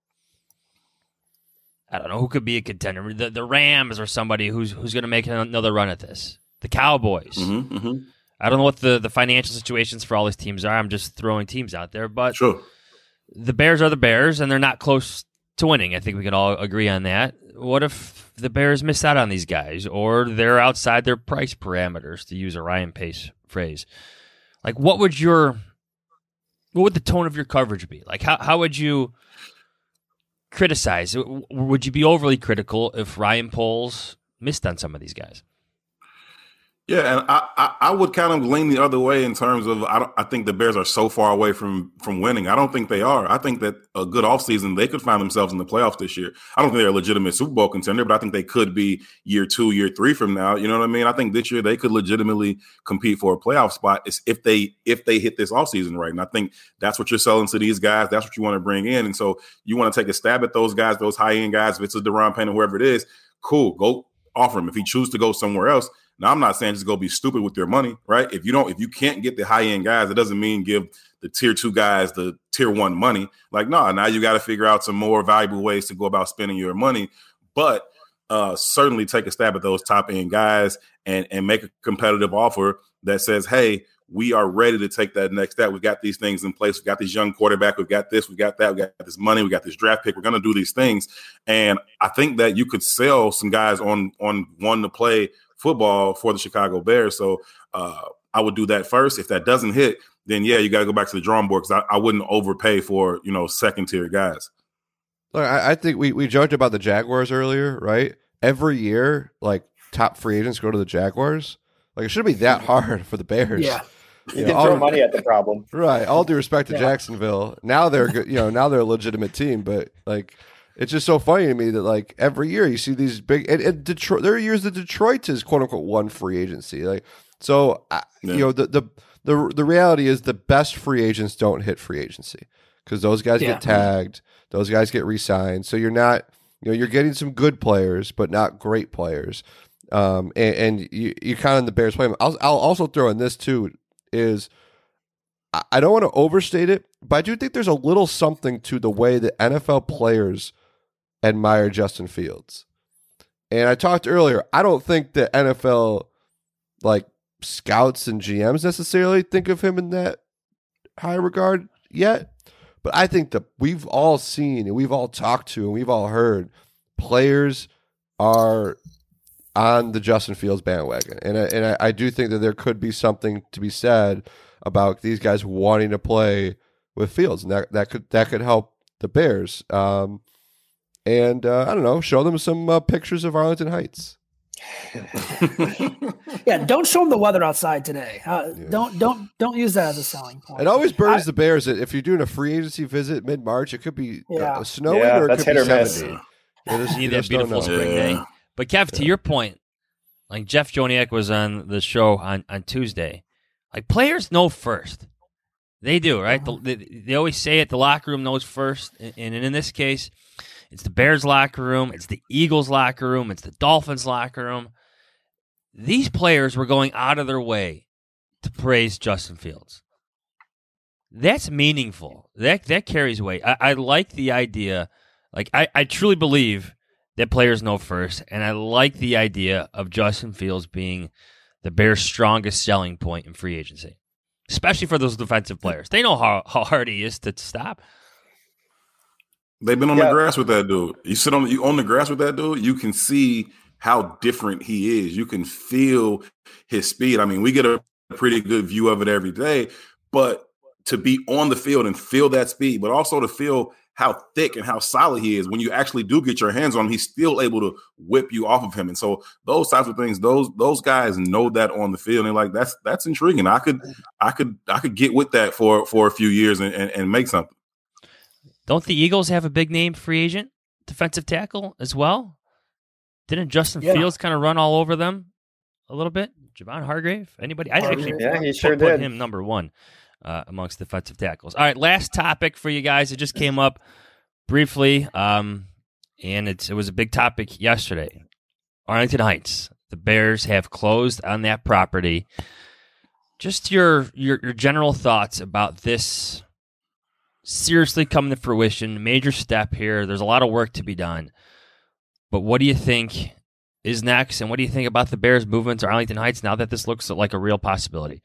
I don't know, who could be a contender? The, the Rams or somebody who's who's going to make another run at this. The Cowboys. Mm-hmm, mm-hmm. I don't know what the, the financial situations for all these teams are. I'm just throwing teams out there. But sure. The Bears are the Bears, and they're not close to winning. I think we can all agree on that. What if the Bears miss out on these guys, or they're outside their price parameters, to use a Ryan Pace phrase? Like, what would your, what would the tone of your coverage be? Like, how how would you criticize? Would you be overly critical if Ryan Poles missed on some of these guys? Yeah, and I, I, I would kind of lean the other way in terms of I don't I think the Bears are so far away from from winning. I don't think they are. I think that a good offseason, they could find themselves in the playoffs this year. I don't think they're a legitimate Super Bowl contender, but I think they could be year two, year three from now. You know what I mean? I think this year they could legitimately compete for a playoff spot if they if they hit this offseason right. And I think that's what you're selling to these guys. That's what you want to bring in. And so you want to take a stab at those guys, those high-end guys. If it's a Deron Payne or whoever it is, cool. Go offer him. If he chooses to go somewhere else, now, I'm not saying just go be stupid with your money, right? If you don't, if you can't get the high end guys, it doesn't mean give the tier two guys the tier one money. Like, no, now you got to figure out some more valuable ways to go about spending your money. But uh, certainly take a stab at those top end guys and and make a competitive offer that says, hey, we are ready to take that next step. We've got these things in place. We've got this young quarterback. We've got this. We've got that. We've got this money. We got this draft pick. We're going to do these things. And I think that you could sell some guys on on one to play football for the Chicago Bears. So uh, I would do that first. If that doesn't hit, then yeah, you got to go back to the drawing board, because I, I wouldn't overpay for, you know, second tier guys. Look, I, I think we, we joked about the Jaguars earlier, right? Every year, like, top free agents go to the Jaguars. Like, it shouldn't be that hard for the Bears. Yeah. You, You can know, throw all- money at the problem. Right. All due respect to Yeah. Jacksonville. Now they're good, you know, now they're a legitimate team, but like it's just so funny to me that like every year you see these big and, and Detroit there are years that Detroit is quote unquote one free agency. Like so I, Yeah. you know the, the the the reality is the best free agents don't hit free agency because those guys Yeah. get tagged, those guys get re-signed. So you're not, you know, you're getting some good players but not great players. Um and, and you you kind of in the Bears play. I'll I'll also throw in this too is I- I don't want to overstate it, but I do think there's a little something to the way that N F L players admire Justin Fields. And I talked earlier, I don't think that N F L like scouts and G Ms necessarily think of him in that high regard yet. But I think that we've all seen and we've all talked to and we've all heard players are on the Justin Fields bandwagon. And I, and I, I do think that there could be something to be said about these guys wanting to play with Fields. And that, that could that could help the Bears. Um, and uh, I don't know, show them some uh, pictures of Arlington Heights. Yeah, don't show them the weather outside today. Uh, yeah. Don't don't don't use that as a selling point. It always burns I, the Bears that if you're doing a free agency visit mid March, it could be yeah. uh, snowing yeah, or it that's could hit be or seventy. miss. It is, you need that beautiful spring yeah. day. But Kev, to yeah. your point, like Jeff Joniak was on the show on, on Tuesday. Like players know first. They do, right? Uh-huh. The, they, they always say it. The locker room knows first, and, and in this case, it's the Bears locker room, it's the Eagles locker room, it's the Dolphins locker room. These players were going out of their way to praise Justin Fields. That's meaningful. That that carries weight. I, I like the idea. Like I, I truly believe that players know first, and I like the idea of Justin Fields being the Bears' strongest selling point in free agency, especially for those defensive players. They know how, how hard he is to stop. They've been on yeah. the grass with that dude. You sit on you on the grass with that dude, you can see how different he is. You can feel his speed. I mean, we get a pretty good view of it every day, but to be on the field and feel that speed, but also to feel how thick and how solid he is, when you actually do get your hands on him, he's still able to whip you off of him. And so those types of things, those those guys know that on the field, and like that's that's intriguing. I could I could I could get with that for for a few years and, and, and make something. Don't the Eagles have a big name free agent defensive tackle as well? Didn't Justin yeah. Fields kind of run all over them a little bit? Javon Hargrave? Anybody? I actually yeah, put, he sure put did. him number one uh, amongst defensive tackles. All right, last topic for you guys. It just came up briefly, um, and it's, it was a big topic yesterday. Arlington Heights. The Bears have closed on that property. Just your your, your general thoughts about this seriously coming to fruition. Major step here. There's a lot of work to be done. But what do you think is next, and what do you think about the Bears' movement to Arlington Heights now that this looks like a real possibility?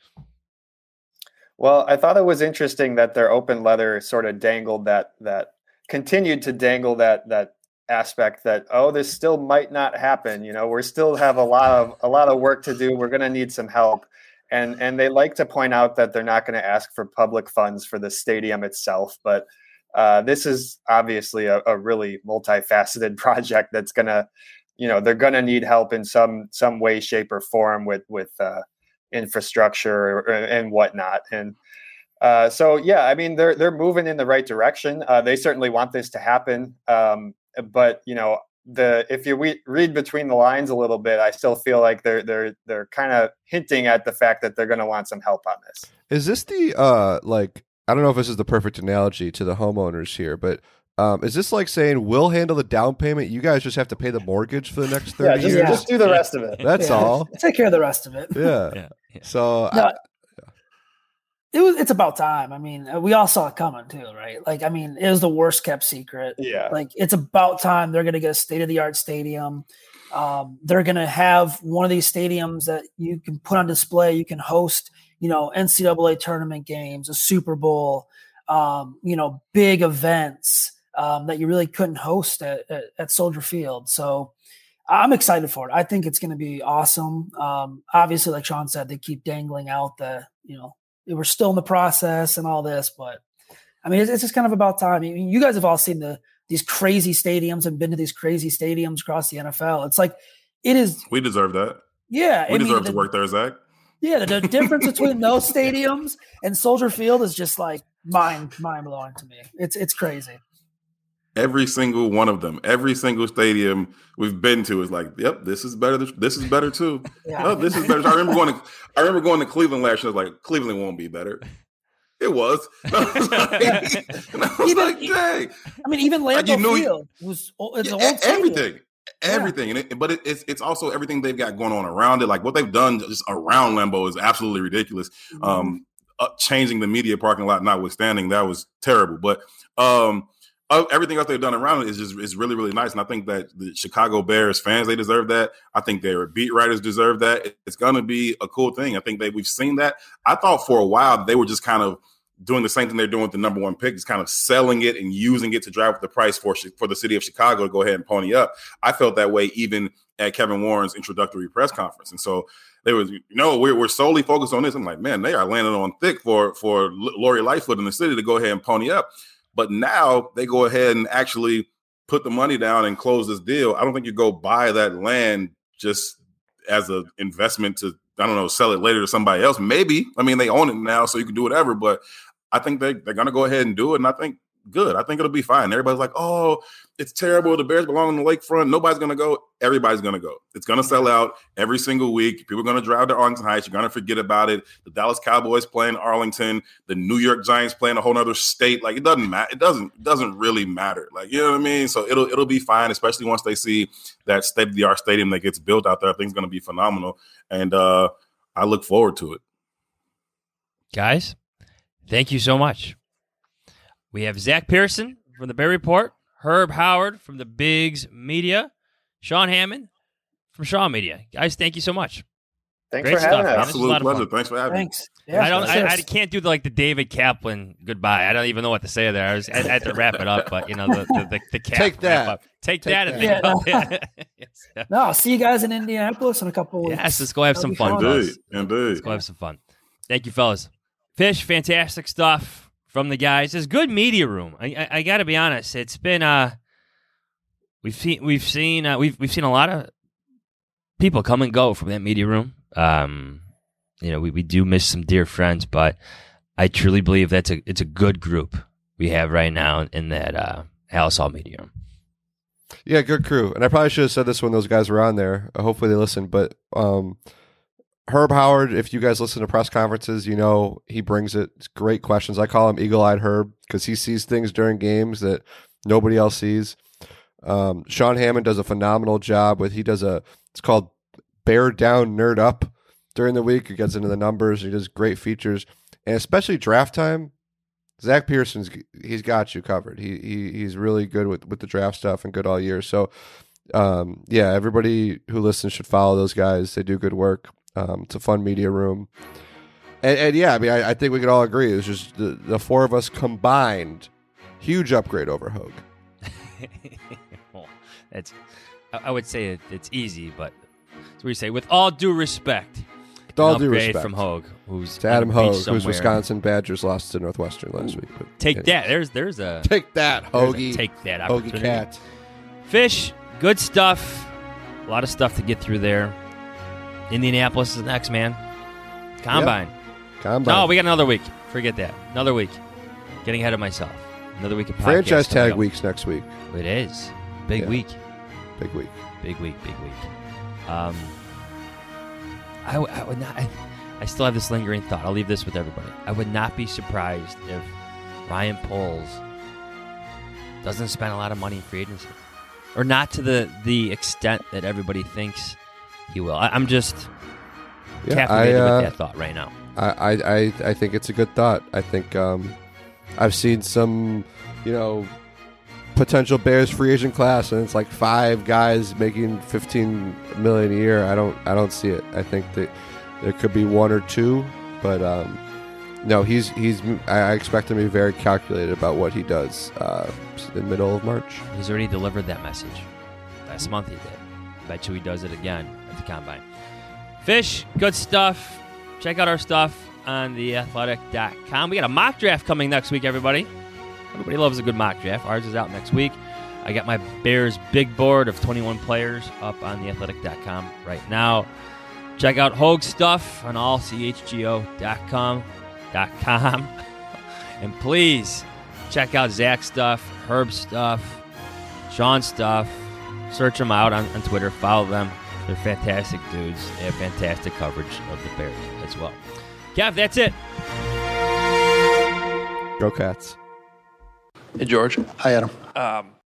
Well, I thought it was interesting that their open letter sort of dangled that, that continued to dangle that that aspect that, oh, this still might not happen. You know, we still have a lot of a lot of work to do. We're going to need some help. And and they like to point out that they're not going to ask for public funds for the stadium itself, but Uh, this is obviously a, a really multifaceted project that's going to, you know, they're going to need help in some some way, shape, or form with with uh, infrastructure or, and whatnot. And uh, so, yeah, I mean, they're they're moving in the right direction. Uh, they certainly want this to happen. Um, but you know, the if you re- read between the lines a little bit, I still feel like they're they're they're kind of hinting at the fact that they're going to want some help on this. Is this the uh, like? I don't know if this is the perfect analogy to the homeowners here, but um, is this like saying we'll handle the down payment? You guys just have to pay the mortgage for the next thirty yeah, just, years. Just do the rest of it. That's yeah. all. Take care of the rest of it. Yeah. yeah, yeah. So no, I, yeah. it was. It's about time. I mean, we all saw it coming too, right? Like, I mean, it was the worst kept secret. Yeah. Like, it's about time they're going to get a state of the art stadium. Um, they're going to have one of these stadiums that you can put on display. You can host, you know, N C double A tournament games, a Super Bowl. Um, you know, big events um, that you really couldn't host at, at, at Soldier Field. So I'm excited for it. I think it's going to be awesome. Um, obviously, like Sean said, they keep dangling out the, you know, we're still in the process and all this, but I mean, it's, it's just kind of about time. I mean, you guys have all seen the these crazy stadiums and been to these crazy stadiums across the N F L. It's like, it is. We deserve that. Yeah. We I deserve mean, to the, work there, Zach. Yeah. The, the difference between those stadiums and Soldier Field is just like, Mind, mind blowing to me. It's it's crazy. Every single one of them, every single stadium we've been to is like, yep, this is better. This is better too. Yeah. Oh, this is better. I remember going to, I remember going to Cleveland last year. I was like, Cleveland won't be better. It was. I was like, and I was even, like, dang. I mean, even Lambeau like, you know, Field was it's yeah, old everything. Everything, yeah. and it, but it, it's it's also everything they've got going on around it. Like what they've done just around Lambeau is absolutely ridiculous. Mm-hmm. Um, Uh, changing the media parking lot notwithstanding, that was terrible. But um, uh, everything else they've done around it is just is really, really nice. And I think that the Chicago Bears fans, they deserve that. I think their beat writers deserve that. It's going to be a cool thing. I think that we've seen that. I thought for a while they were just kind of doing the same thing they're doing with the number one pick, is kind of selling it and using it to drive up the price for for the city of Chicago to go ahead and pony up. I felt that way even at Kevin Warren's introductory press conference. And so they was, you know, we're, we're solely focused on this. I'm like, man, they are landing on thick for, for Lori Lightfoot in the city to go ahead and pony up. But now they go ahead and actually put the money down and close this deal. I don't think you go buy that land just as an investment to, I don't know, sell it later to somebody else. Maybe. I mean, they own it now, so you can do whatever. But I think they, they're going to go ahead and do it. And I think, good. I think it'll be fine. Everybody's like, oh, it's terrible. The Bears belong on the lakefront. Nobody's going to go. Everybody's going to go. It's going to sell out every single week. People are going to drive to Arlington Heights. You're going to forget about it. The Dallas Cowboys playing Arlington. The New York Giants playing a whole other state. Like, it doesn't matter. It doesn't, it doesn't really matter. Like, you know what I mean? So it'll, it'll be fine, especially once they see that state-of-the-art stadium that gets built out there. I think it's going to be phenomenal. And uh, I look forward to it. Guys, thank you so much. We have Zach Pearson from the Bear Report, Herb Howard from the Bigs Media, Sean Hammond from Shaw Media. Guys, thank you so much. Thanks Great for having stuff, us. man. Absolute pleasure. Thanks for having Thanks. me. Yeah, I don't. I, I cheers. can't do the, like the David Kaplan goodbye. I don't even know what to say there. I was. I, I had to wrap it up, but you know the the the, the cap Take that. wrap up. Take, Take that and that. think Yeah, about it. Yes. No, I'll see you guys in Indianapolis in a couple weeks. Yes, let's go have That'll some be fun, fun. fellas. Indeed. Indeed. Let's go have some fun. Thank you, fellas. Fish, fantastic stuff from the guys. It's good media room. I, I, I got to be honest. It's been uh, we've seen we've seen uh, we've we've seen a lot of people come and go from that media room. Um, you know, we, we do miss some dear friends, but I truly believe that's a it's a good group we have right now in that uh, Halas Hall media room. Yeah, good crew. And I probably should have said this when those guys were on there. Uh, hopefully they listened. But um, Herb Howard, if you guys listen to press conferences, you know he brings it. It's great questions. I call him Eagle-Eyed Herb because he sees things during games that nobody else sees. Um, Sean Hammond does a phenomenal job with, he does a, it's called Bear Down Nerd Up during the week. He gets into the numbers. He does great features. And especially draft time, Zach Pearson's, he's got you covered. He, he He's really good with, with the draft stuff and good all year. So, um, yeah, everybody who listens should follow those guys. They do good work. Um, it's a fun media room. And, and yeah, I mean, I, I think we could all agree. It was just the, the four of us combined. Huge upgrade over Hogue. Well, it's, I I would say it, it's easy, but that's what you say. With all due respect, With all an due upgrade respect. from Hogue, who's To Adam on the beach Hogue, whose somewhere. Wisconsin Badgers lost to Northwestern last week. But Take anyway. that. There's there's a Take that, there's a Hoagie. take that Hoagie opportunity. Cat. Fish, good stuff. A lot of stuff to get through there. Indianapolis is next, man. Combine. Combine. No, we got another week. Forget that. Another week. Getting ahead of myself. Another week of podcasts Franchise coming tag up. weeks next week. It is. Big Yeah. week. Big week. Big week. Big week. Um, I, w- I would not. I, I still have this lingering thought. I'll leave this with everybody. I would not be surprised if Ryan Poles doesn't spend a lot of money in free agency, or not to the the extent that everybody thinks he will. I, I'm just Yeah, caffeinated I, uh, with that thought right now. I, I, I, I think it's a good thought. I think um, I've seen some, you know, potential Bears free agent class, and it's like five guys making fifteen million a year. I don't, I don't see it. I think that there could be one or two, but um, no, he's he's. I expect him to be very calculated about what he does uh, in the middle of March. He's already delivered that message. Last month he did. Bet you he does it again at the Combine. Fish, good stuff. Check out our stuff on the athletic dot com. We got a mock draft coming next week, everybody. Everybody loves a good mock draft. Ours is out next week. I got my Bears big board of twenty-one players up on the athletic dot com right now. Check out Hogue stuff on all c h g o dot com. And please check out Zach's stuff, Herb's stuff, Sean's stuff. Search them out on, on Twitter. Follow them. They're fantastic dudes. They have fantastic coverage of the Bears as well. Kev, that's it. Go Cats. Hey, George. Hi, Adam. Um,